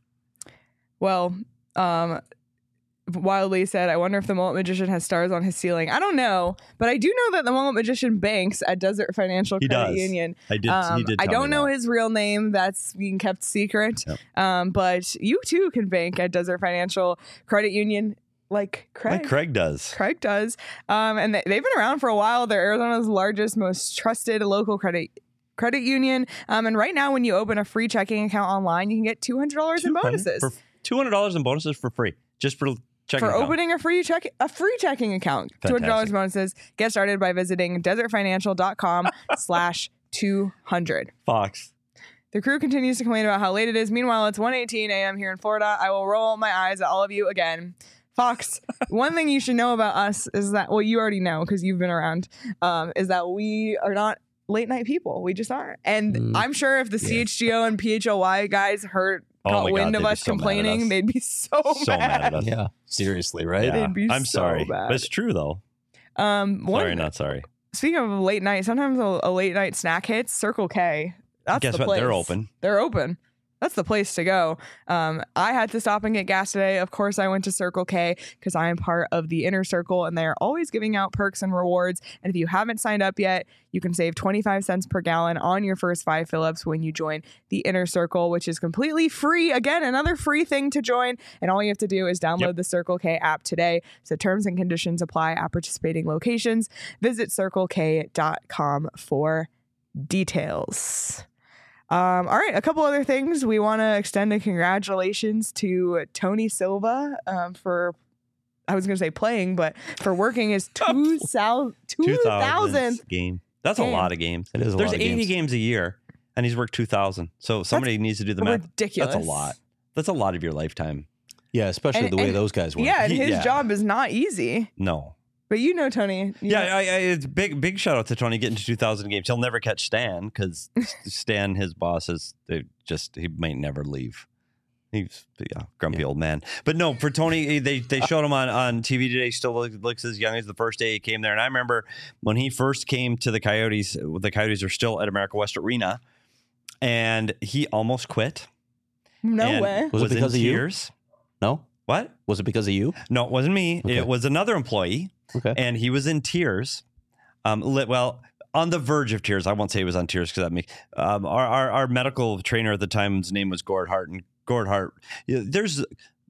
Well, um, Wildly said, I wonder if the Mullet Magician has stars on his ceiling. I don't know, but I do know that the Mullet Magician banks at Desert Financial He Credit does. Union. I did. Um, he did. I tell don't me know that. his real name. That's being kept secret. Yep. Um, but you too can bank at Desert Financial Credit Union, like Craig. Like Craig does. Craig does. Um, and they, they've been around for a while. They're Arizona's largest, most trusted local credit credit union. Um, and right now, when you open a free checking account online, you can get two hundred dollars in bonuses For two hundred dollars in bonuses for free, just for checking. for account. opening a free check a free checking account. two hundred dollars bonuses. Get started by visiting desertfinancial.com slash 200. Fox. The crew continues to complain about how late it is. Meanwhile, it's one eighteen a.m. here in Florida. I will roll my eyes at all of you again. Fox, one thing you should know about us is that, well, you already know because you've been around, um, is that we are not late night people. We just aren't. And Mm. I'm sure if the Yeah. C H G O and P H L Y guys heard, Oh got my God, wind of they'd be us so mad at complaining, us. they'd be so, So mad at us. Yeah. Seriously, right? Yeah. They'd be I'm so sorry, bad. but it's true though. Um, one, Sorry, not sorry. Speaking of late night, sometimes a, a late night snack hits. Circle K. That's Guess the what? place. They're open. They're open. That's the place to go. Um, I had to stop and get gas today. Of course, I went to Circle K because I am part of the Inner Circle, and they're always giving out perks and rewards. And if you haven't signed up yet, you can save twenty-five cents per gallon on your first five fill-ups when you join the Inner Circle, which is completely free. Again, another free thing to join. And all you have to do is download Yep. the Circle K app today. So terms and conditions apply at participating locations. Visit circle k dot com for details. Um, all right, a couple other things. We want to extend a congratulations to Tony Silva um, for, I was going to say playing, but for working his two thousandth two thousandth game. That's a game. lot of games. It is a There's lot of eighty games. games a year, and he's worked two thousand. So somebody needs to do the math. ridiculous. That's a lot. That's a lot of your lifetime. Yeah, especially And- the way and- those guys work. Yeah, and He- his yeah. job is not easy. No. But you know, Tony. you Yeah, know- I, I, it's big, big shout out to Tony getting to two thousand games. He'll never catch Stan because Stan, his boss, is they just he might never leave. He's yeah, grumpy Yeah. old man. But no, for Tony, they they showed him on, on T V today. Still look, looks as young as the first day he came there. And I remember when he first came to the Coyotes. The Coyotes are still at America West Arena, and he almost quit. no and way. Was it in because of you? tears. No? What? Was it because of you? No, it wasn't me. Okay. It was another employee. Okay. And he was in tears. Um, li- well, on the verge of tears. I won't say he was on tears because that makes um, our, our our medical trainer at the time's name was Gord Hart, and Gord Hart. You know, there's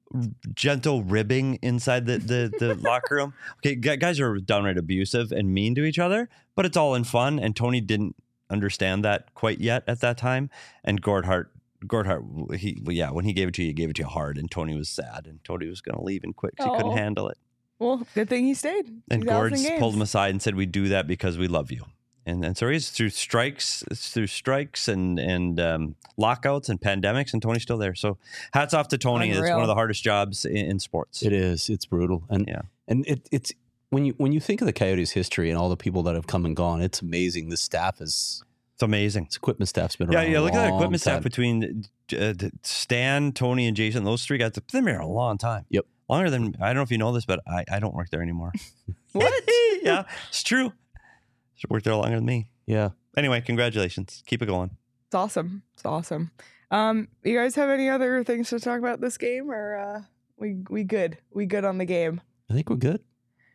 gentle ribbing inside the the, the locker room. Okay, gu- guys are downright abusive and mean to each other, but it's all in fun. And Tony didn't understand that quite yet at that time. And Gord Hart. Gord Hart, he well, yeah, when he gave it to you, he gave it to you hard, and Tony was sad, and Tony was going to leave and quit because he couldn't Oh. handle it. Well, good thing he stayed. And two thousand Gord's games. pulled him aside and said, "We do that because we love you." And and so he's through strikes, it's through strikes and and um, lockouts and pandemics, and Tony's still there. So hats off to Tony. It's Unreal. one of the hardest jobs in, in sports. It is. It's brutal. And Yeah. and it, it's when you when you think of the Coyotes' history and all the people that have come and gone, it's amazing. The staff is It's amazing. its equipment staff's been Yeah, around. yeah. a Look at that long equipment staff time. between uh, Stan, Tony, and Jason. Those three guys, they've been there a long time. Yep. Longer than I don't know if you know this, but I, I don't work there anymore. What? Yeah, it's true. Should work there longer than me. Yeah. Anyway, congratulations. Keep it going. It's awesome. It's awesome. Um, you guys have any other things to talk about this game, or uh, we we good? We good on the game? I think we're good.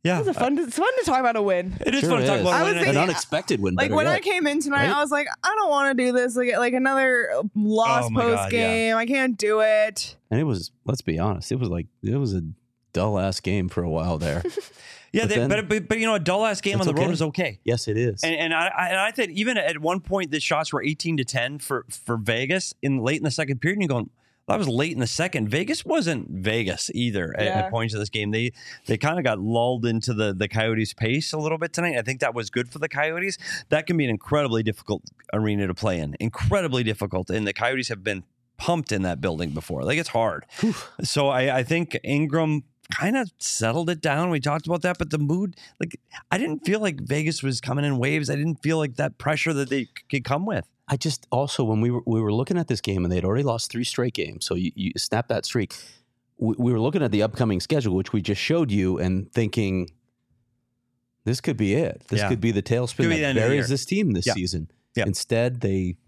Yeah. It's fun. To, it's fun to talk about a win. It is Sure fun to talk is. about I a was win. An thinking- unexpected win. Like better when I yet. came in tonight, Right? I was like, I don't want to do this. Like like another lost Oh my post God, yeah. game. I can't do it. And it was, let's be honest, it was like, it was a dull ass game for a while there. Yeah, But they, then- but, but but you know, a dull ass game on That's the road okay. is okay. Yes, it is. And, and I, I and I think even at one point the shots were eighteen to ten for for Vegas in late in the second period. And you're going, that was late in the second. Vegas wasn't Vegas either at, Yeah. at points of this game. They they kind of got lulled into the the Coyotes' pace a little bit tonight. I think that was good for the Coyotes. That can be an incredibly difficult arena to play in. Incredibly difficult. And the Coyotes have been pumped in that building before. Like it's hard. So I, I think Ingram kind of settled it down. We talked about that, but the mood, like I didn't feel like Vegas was coming in waves. I didn't feel like that pressure that they c- could come with. I just also when we were we were looking at this game and they'd already lost three straight games, so you, you snap that streak. We, we were looking at the upcoming schedule, which we just showed you, and thinking this could be it. This Yeah. could be the tailspin Could be that the end of the buries year. this team this Yeah. season. Yeah. Instead, they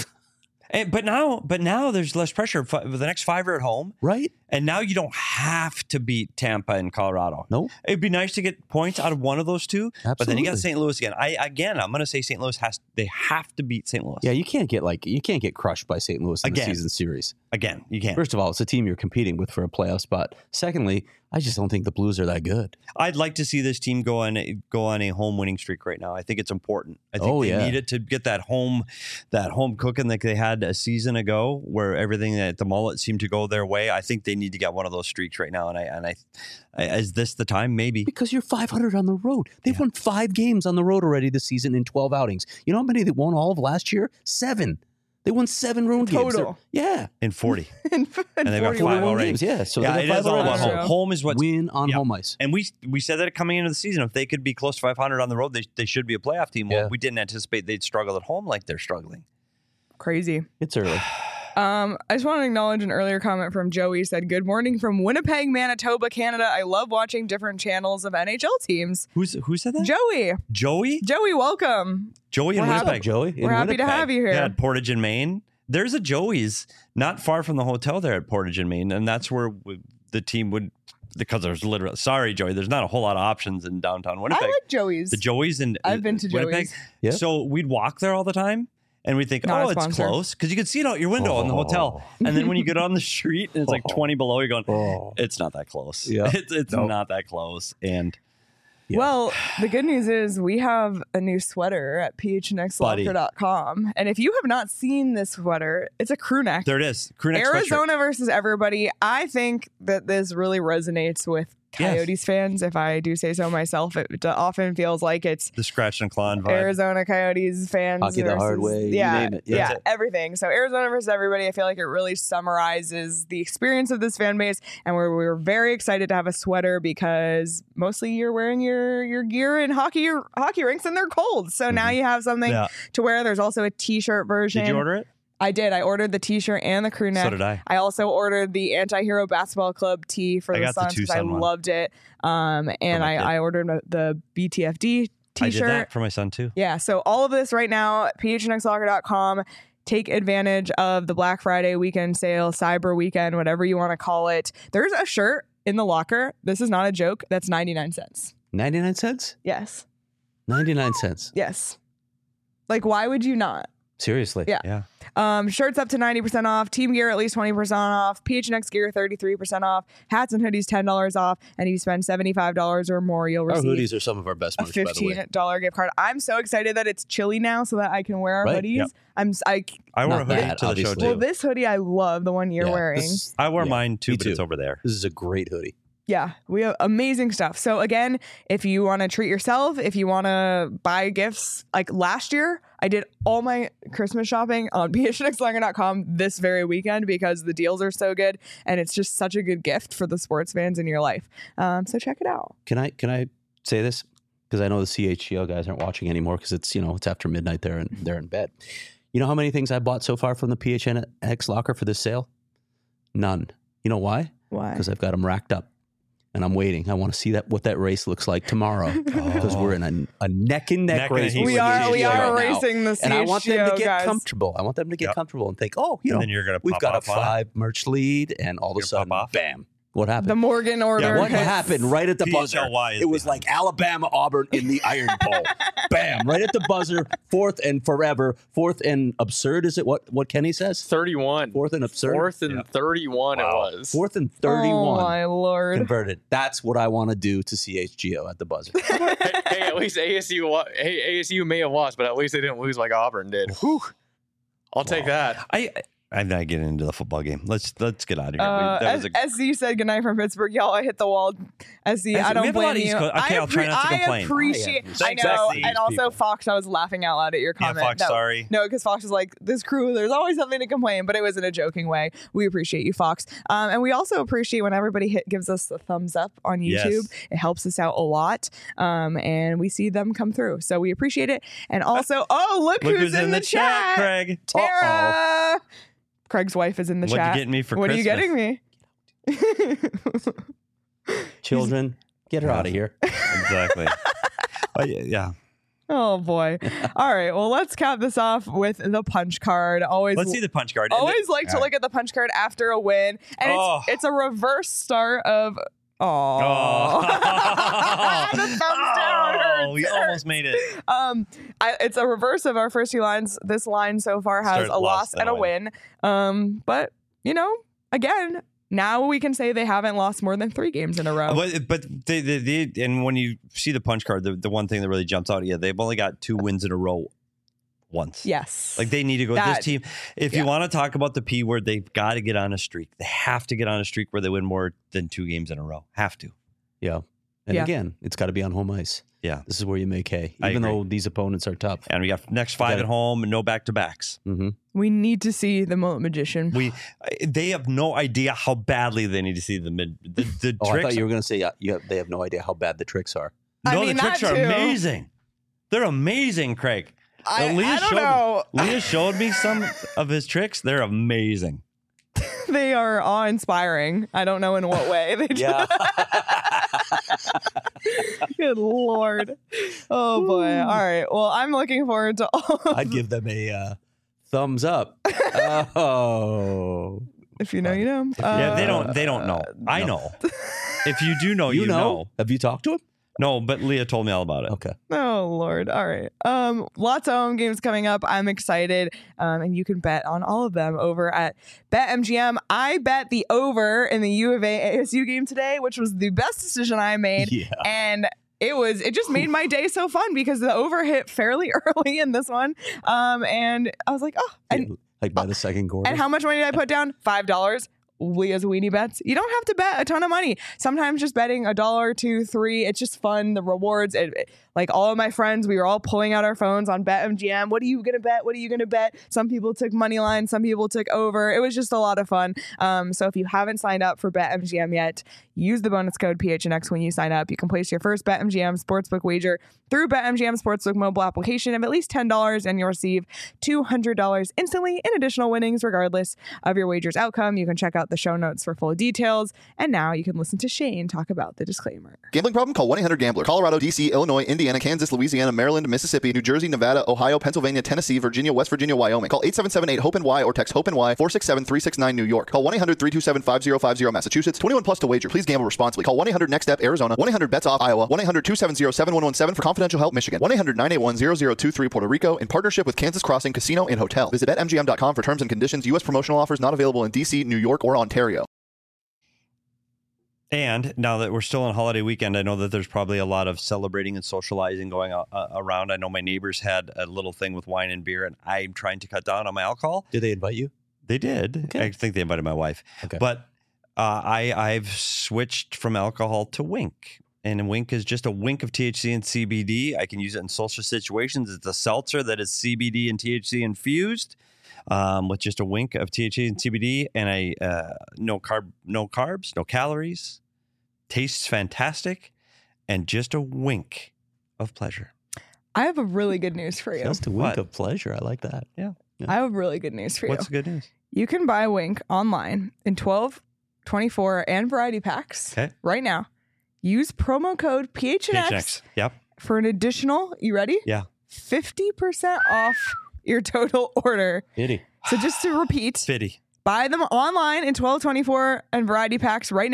And, but now, but now there's less pressure. Fi- The next five are at home, right. and now you don't have to beat Tampa and Colorado. No, It'd be nice to get points out of one of those two, but then you got Absolutely. Saint Louis again. I again, I'm going to say Saint Louis has. They have to beat Saint Louis. yeah, you can't get like you can't get crushed by Saint Louis in Again. the season series. Again, you can't. First of all, it's a team you're competing with for a playoff spot. Secondly, I just don't think the Blues are that good. I'd like to see this team go on a, go on a home winning streak right now. I think it's important. I think Oh, they yeah. need it to get that home that home cooking like they had a season ago, where everything at the mullet seemed to go their way. I think they need to get one of those streaks right now. And I and I, I is this the time? Maybe. Because you're five hundred on the road. They've Yeah. won five games on the road already this season in twelve outings. You know how many they won all of last year? Seven. They won seven road games. Total. They're- Yeah. In forty. and And they've got forty five Forty-one already. games. Yeah. So yeah, they it got is five all already. about Wow. home. True. Home is what's Win on yeah. home ice. And we we said that coming into the season, if they could be close to five hundred on the road, they, they should be a playoff team. Well, Yeah. we didn't anticipate they'd struggle at home like they're struggling. Crazy. It's early. Um, I just want to acknowledge an earlier comment from Joey. Said, "Good morning from Winnipeg, Manitoba, Canada. I love watching different channels of N H L teams." Who's who said that? Joey, Joey? Joey, welcome. Joey in We're happy- Winnipeg. Joey. in We're happy to Winnipeg. have you here. Yeah, at Portage in Maine. There's a Joey's not far from the hotel there at Portage in Maine, and that's where we, the team would because there's literally sorry Joey, there's not a whole lot of options in downtown Winnipeg. I like Joey's. the Joey's in I've been to Winnipeg. Joey's. Yeah. So we'd walk there all the time. And we think, Not a oh, it's sponsor. close because you can see it out your window in the hotel. And then when you get on the street and it's like twenty below, you're going, Oh. it's not that close. Yeah. It's, it's Nope. not that close. And Yeah. Well, the good news is we have a new sweater at p h n x locker dot com. And if you have not seen this sweater, it's a crew neck. there it is. Crew neck sweatshirt. Arizona versus everybody. I think that this really resonates with Yes. Coyotes fans, if I do say so myself. It often feels like it's The scratch and claw vibe. Arizona Coyotes fans. Hockey the versus, hard way, you Yeah, name it. Yeah. yeah, That's it. everything. So Arizona versus everybody, I feel like it really summarizes the experience of this fan base. And we're, we're very excited to have a sweater because mostly you're wearing your, your gear in hockey hockey rinks and they're cold. So now you have something Yeah. to wear. There's also a t-shirt version. Did you order it? I did. I ordered the t-shirt and the crew neck. So did I. I also ordered the Anti-Hero Basketball Club tee for I the got the Suns because I Tucson one. loved it. Um, and my I, kid. I ordered the B T F D I did t-shirt. that for my son too. Yeah, so all of this right now, p h n x locker dot com. Take advantage of the Black Friday weekend sale, Cyber Weekend, whatever you want to call it. There's a shirt in the locker. This is not a joke. That's ninety-nine cents. ninety-nine cents? Yes. ninety-nine cents. Yes. Like, why would you not? Seriously. Yeah. Yeah. Um, shirts up to ninety percent off. Team gear at least twenty percent off. P H N X gear thirty-three percent off. Hats and hoodies ten dollars off. And if you spend seventy-five dollars or more, you'll Our receive hoodies are some of our best a merch, by the fifteen way. dollars gift card. I'm so excited that it's chilly now so that I can wear our Right. hoodies. Yep. I'm s- I I wore Not a hoodie that, to the show obviously. too. well, this hoodie I love, the one you're Yeah, wearing. This, I wore yeah, mine too, me but too. it's over there. this is a great hoodie. Yeah, we have amazing stuff. So again, if you want to treat yourself, if you want to buy gifts, like last year, I did all my Christmas shopping on p h n x locker dot com this very weekend because the deals are so good and it's just such a good gift for the sports fans in your life. Um, so check it out. Can I can I say this? Because I know the C H G O guys aren't watching anymore because it's, you know, it's after midnight there and they're in bed. You know how many things I bought so far from the P H N X locker for this sale? None. You know why? Why? Because I've got them racked up. And I'm waiting. I want to see that what that race looks like tomorrow because we're in a, a neck and neck, Neck and race. heat with We the are we C H G O are right now. racing the C H G O, And I want them to get guys. comfortable. I want them to get Yep. comfortable and think, oh, you And know, then you're gonna we've pop got a off on it. five merch lead, and all of a You're sudden, pop off. bam, What happened? The Morgan order. What hits. happened right at the P H buzzer? L Y is It was behind. like Alabama, Auburn in the Iron Bowl. Bam! Right at the buzzer. Fourth and forever. Fourth and absurd. Is it what? What Kenny says? thirty-one. Fourth and absurd. Fourth and Yeah. thirty-one Wow. it was. Fourth and Oh thirty-one. my lord. Converted. That's what I want to do to C H G O at the buzzer. hey, hey, at least A S U. wa- Hey, A S U may have lost, but at least they didn't lose like Auburn did. Whew. I'll take that. I, I'm not getting into the football game. Let's let's get out of here. Uh, We- that was a- S Z said goodnight from Pittsburgh. Y'all, I hit the wall. S Z, S Z, I we don't have a lot blame of East you. Coast- okay, I, I'll try not to I complain. appreciate. I I, Thanks, know, S Z. and also people. Fox. I was laughing out loud at your yeah, comment. Fox, that- sorry. No, because Fox was like, "This crew, there's always something to complain," but it was in a joking way. We appreciate you, Fox, um, and we also appreciate when everybody hit, gives us a thumbs up on YouTube. Yes. It helps us out a lot, um, and we see them come through, so we appreciate it. And also, oh, look, Look who's, in, the, chat, Craig. Tara. Craig's wife is in the What'd you chat. get me for what Christmas? are you getting me? Children, get her out of here. Exactly. Oh, yeah, yeah. Oh boy. All right. Well, let's cap this off with the punch card. Always Let's see the punch card. And always like to all look at the punch card after a win. And Oh. it's it's a reverse start of Oh. oh the thumbs down Oh, hurts. we It almost hurts. made it. Um, I, it's a reverse of our first two lines. This line so far has Start a loss lost, then and a a win. Um, but you know, again, now we can say they haven't lost more than three games in a row. But but they, they, they and when you see the punch card, the, the one thing that really jumps out at you, they've only got two wins in a row once. Yes. Like they need to go. That- this team, if yeah. you want to talk about the P word, they've got to get on a streak. They have to get on a streak where they win more than two games in a row. Have to. Yeah. And Yeah. again, it's got to be on home ice. Yeah. This is where you make hay, I even agree. though these opponents are tough. And we got next five Got it. at home and no back to backs. Mm-hmm. We need to see the Mullet Magician. We they have no idea how badly they need to see the mid the, the Oh, I tricks. thought you were going to say uh, you have, they have no idea how bad the tricks are. I no, mean, the tricks that are too. amazing. They're amazing, Craig. I, Uh, Leah I don't showed know. Leah showed me some of his tricks. They're amazing. They are awe-inspiring. I don't know in what way. They just, Yeah. Good Lord. Oh, boy. All right. Well, I'm looking forward to all of I'd give them a uh, thumbs up. Oh. If you know, you know. Yeah, they Uh, don't they don't know. I know. If you do know, you, you, know? know. Have you talked to him? No, but Leah told me all about it. Okay. Oh Lord! All right. Um, lots of home games coming up. I'm excited, um, and you can bet on all of them over at BetMGM. I bet the over in the U of A A S U game today, which was the best decision I made, Yeah. and it was it just made my day so fun because the over hit fairly early in this one, um, and I was like, oh, and like by the second quarter. and how much money did I put down? Five dollars. Leah's weenie bets. You don't have to bet a ton of money. Sometimes just betting a dollar, two, three. It's just fun. The rewards. It, it- like all of my friends, we were all pulling out our phones on BetMGM. What are you gonna bet? What are you gonna bet? Some people took money line. Some people took over. It was just a lot of fun. Um, so if you haven't signed up for BetMGM yet, use the bonus code P H N X when you sign up. You can place your first BetMGM sportsbook wager through BetMGM Sportsbook mobile application of at least ten dollars, and you'll receive two hundred dollars instantly in additional winnings, regardless of your wager's outcome. You can check out the show notes for full details. And now you can listen to Shane talk about the disclaimer. Gambling problem? Call one eight hundred gambler. Colorado, D C, Illinois, Indiana, Kansas, Louisiana, Maryland, Mississippi, New Jersey, Nevada, Ohio, Pennsylvania, Tennessee, Virginia, West Virginia, Wyoming. Call eight seven seven eight hope N Y or text HOPE N Y four six seven three six nine New York. Call one eight hundred three two seven five zero five zero Massachusetts. twenty-one plus to wager. Please gamble responsibly. Call one eight hundred next step Arizona. one eight hundred bets off Iowa. one eight hundred two seven zero seven one one seven for confidential help Michigan. one eight hundred nine eight one zero zero two three Puerto Rico in partnership with Kansas Crossing Casino and Hotel. Visit bet M G M dot com for terms and conditions. U S promotional offers not available in D C, New York, or Ontario. And now that we're still on holiday weekend, I know that there's probably a lot of celebrating and socializing going uh, around. I know my neighbors had a little thing with wine and beer, and I'm trying to cut down on my alcohol. Did they invite you? They did. Okay. I think they invited my wife. Okay. But uh, I, I've switched from alcohol to Wink. And Wink is just a wink of T H C and C B D. I can use it in social situations. It's a seltzer that is C B D and T H C infused. Um, with just a wink of T H C and C B D, and I uh, no carb, no carbs, no calories. Tastes fantastic, and just a wink of pleasure. I have a really good news for you. Just a wink What? of pleasure. I like that. I have really good news for you. What's the good news? You can buy Wink online in twelve, twenty-four, and variety packs Okay. right now. Use promo code P H N X P H X. Yep. for an additional, you ready? Yeah. fifty percent off your total order. Itty. So just to repeat, Fitty. buy them online in twelve, twenty-four, and variety packs right now.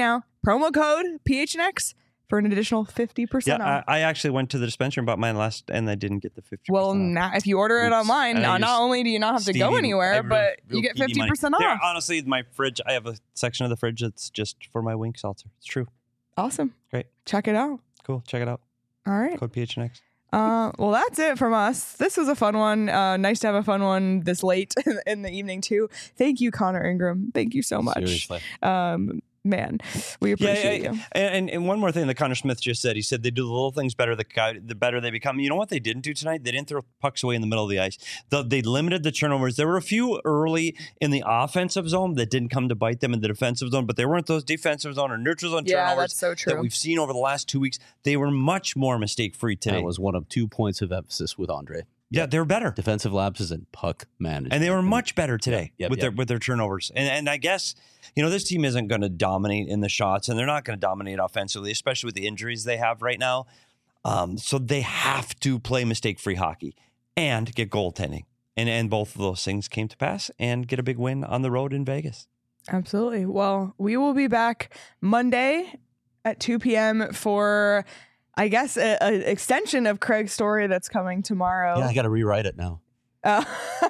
promo code P H N X for an additional fifty Yeah, percent off. I, I actually went to the dispensary and bought mine last, and I didn't get the fifty percent Well, off. now if you order it Oops. online, And I uh, not used only do you not have to go Stevie- I anywhere, have but real you get P D fifty money. percent There, off. honestly, my fridge, I have a section of the fridge that's just for my wink seltzer. It's true. Awesome. Great. Check it out. Cool. Check it out. All right. Code P H N X. Uh, well, that's it from us. This was a fun one. Uh, nice to have a fun one this late in the evening, too. Thank you, Connor Ingram. Thank you so much. Seriously. Um, man, we appreciate yeah, you. And, and one more thing that Connor Smith just said. He said they do the little things better, the, guy- the better they become. You know what they didn't do tonight? They didn't throw pucks away in the middle of the ice. The, they limited the turnovers. There were a few early in the offensive zone that didn't come to bite them in the defensive zone, but they weren't those defensive zone or neutral zone Yeah, turnovers that's so true. that we've seen over the last two weeks. They were much more mistake-free today. That was one of two points of emphasis with Andre. yeah, they were better. Defensive lapses and puck management. And they were much better today Yep, with yep. their with their turnovers. And and I guess, you know, this team isn't going to dominate in the shots, and they're not going to dominate offensively, especially with the injuries they have right now. Um, so they have to play mistake-free hockey and get goaltending. And and both of those things came to pass and get a big win on the road in Vegas. Absolutely. Well, we will be back Monday at two p.m. for, I guess, an extension of Craig's story that's coming tomorrow. Yeah, I got to rewrite it now. Uh,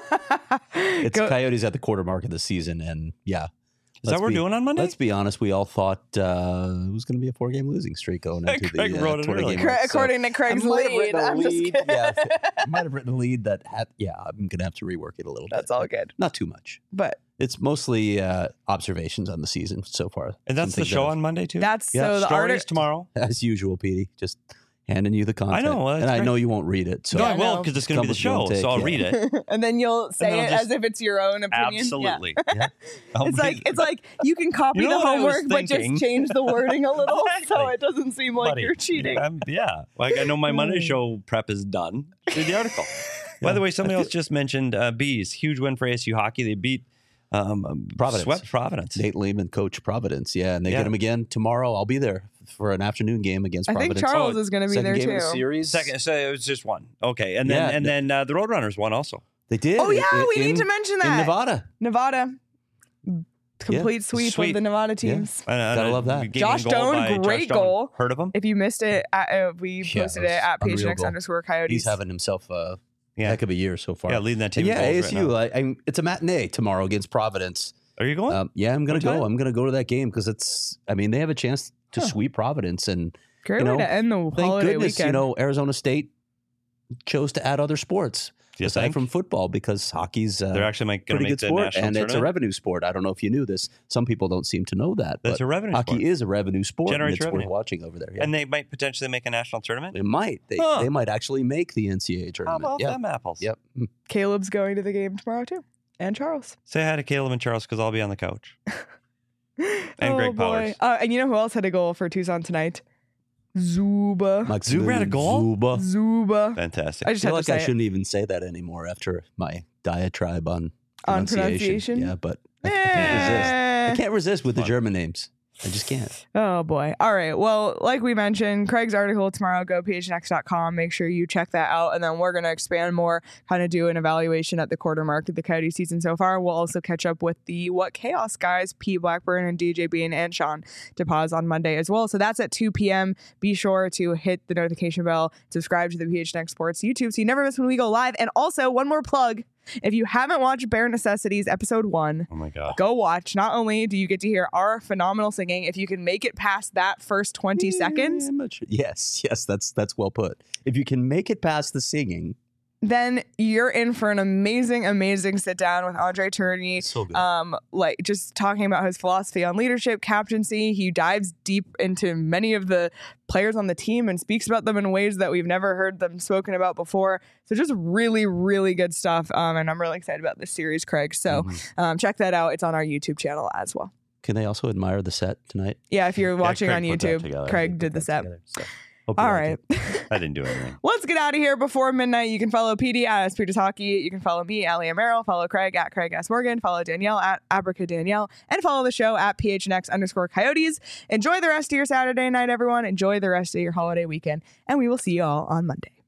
It's go- Coyotes at the quarter mark of the season, and yeah. Is that what we're be, doing on Monday? Let's be honest. We all thought uh, it was going to be a four-game losing streak going into Craig the uh, wrote it twenty early. game Cra- mark. So according to Craig's I might have lead. written a I'm just lead. kidding. Yeah, I might have written a lead that had. Yeah, I'm going to have to rework it a little That's bit. all but good. Not too much. But It's mostly uh, observations on the season so far. and that's Some the things show that on Monday, too? that's Yeah, so the Stories artist. tomorrow. have- as usual, Petey. Just handing you the content. know, well, that's and I great. know you won't read it. So no, Yeah, I I will know. because it's going to be the Come show, with your so I'll take, read yeah. it. And then you'll say then I'll it just- as if it's your own opinion. Yeah. Absolutely. Yeah. I'll It's read like it. it's like you can copy You know the what I was homework, but thinking? just change the wording a little so Exactly. it doesn't seem like Buddy, you're cheating. I'm- yeah. Like I know my Monday show prep is done. Read the article. By the way, somebody else just mentioned uh, Bees. Huge win for A S U hockey. They beat um, Providence. Swept Providence. Nate Lehman, coach Providence. Yeah, and they Yeah. get him again tomorrow. I'll be there for an afternoon game against I think Providence. Charles Oh, is going to be Second there game too. of the series. Second, so it was just one. Okay, and then Yeah, and the- then uh, the Roadrunners won also. They did. Oh yeah, in- we need in- to mention in that. Nevada. Nevada. Complete sweep, Sweep. of the Nevada Yeah. teams. And, uh, Gotta love that. we gave Josh a goal Doan, by great Josh Doan. goal. Heard of him? If you missed it, at, uh, we Yeah, posted it it was at unreal PHNX goal. underscore Coyotes. He's having himself a Yeah. heck of a year so far. Yeah, leading that team. And yeah, in A goals S right U. now. I, I, it's a matinee tomorrow against Providence. Are you going? Um, yeah, I'm gonna What go. time? I'm gonna go to that game because it's. I mean, they have a chance to Huh. sweep Providence, and Great you way know, to end the thank holiday goodness, weekend. you know, Arizona State chose to add other sports Do you aside think? from football because hockey's uh, They're actually going to pretty make good the sport, national and it's a tournament. revenue sport. I don't know if you knew this. Some people don't seem to know that. That's but a revenue hockey sport. is a revenue sport, and Generates it's revenue. worth watching over there. Yeah. And they might potentially make a national tournament. They might. They, Huh. they might actually make the N C double A How tournament. about yeah. them apples? Yep. Mm. Caleb's going to the game tomorrow too, and Charles. Say hi to Caleb and Charles because I'll be on the couch. oh Greg boy! Powers. Uh, and you know who else had a goal for Tucson tonight? Zuba. Mike Zuber had a goal? Zuba. Zuba. Fantastic. I just I feel had like to I say it. shouldn't even say that anymore after my diatribe on On pronunciation. pronunciation? Yeah, but I can't resist. Eh. I can't resist with the Fun. German names. I just can't. Oh boy. All right. Well, like we mentioned, Craig's article tomorrow, go P H N X dot com. Make sure you check that out. And then we're going to expand more, kind of do an evaluation at the quarter mark of the Coyote season so far. We'll also catch up with the What Chaos guys, Pete Blackburn and D J Bean and Sean DePaz on Monday as well. So that's at two p.m. Be sure to hit the notification bell, subscribe to the P H N X Sports YouTube so you never miss when we go live. And also, one more plug. If you haven't watched Bare Necessities episode one, oh my God. go watch. Not only do you get to hear our phenomenal singing, if you can make it past that first twenty seconds, Yeah, I'm not sure. Yes, yes, that's that's well put. If you can make it past the singing, then you're in for an amazing, amazing sit down with Andre Tourney. so good. Um, like just talking about his philosophy on leadership, captaincy. He dives deep into many of the players on the team and speaks about them in ways that we've never heard them spoken about before. So just really, really good stuff. Um, and I'm really excited about this series, Craig. So Mhm. um, check that out. It's on our YouTube channel as well. Can they also admire the set tonight? Yeah, if you're watching Craig on put that YouTube, together. Craig did the set. Hope you All like right. it. I didn't do anything. Let's get out of here before midnight. You can follow P D at Peters Hockey. You can follow me, Allie Amaro. Follow Craig at Craig S. Morgan. Follow Danielle at Abraca Danielle. And follow the show at P H N X underscore Coyotes. Enjoy the rest of your Saturday night, everyone. Enjoy the rest of your holiday weekend. And we will see you all on Monday.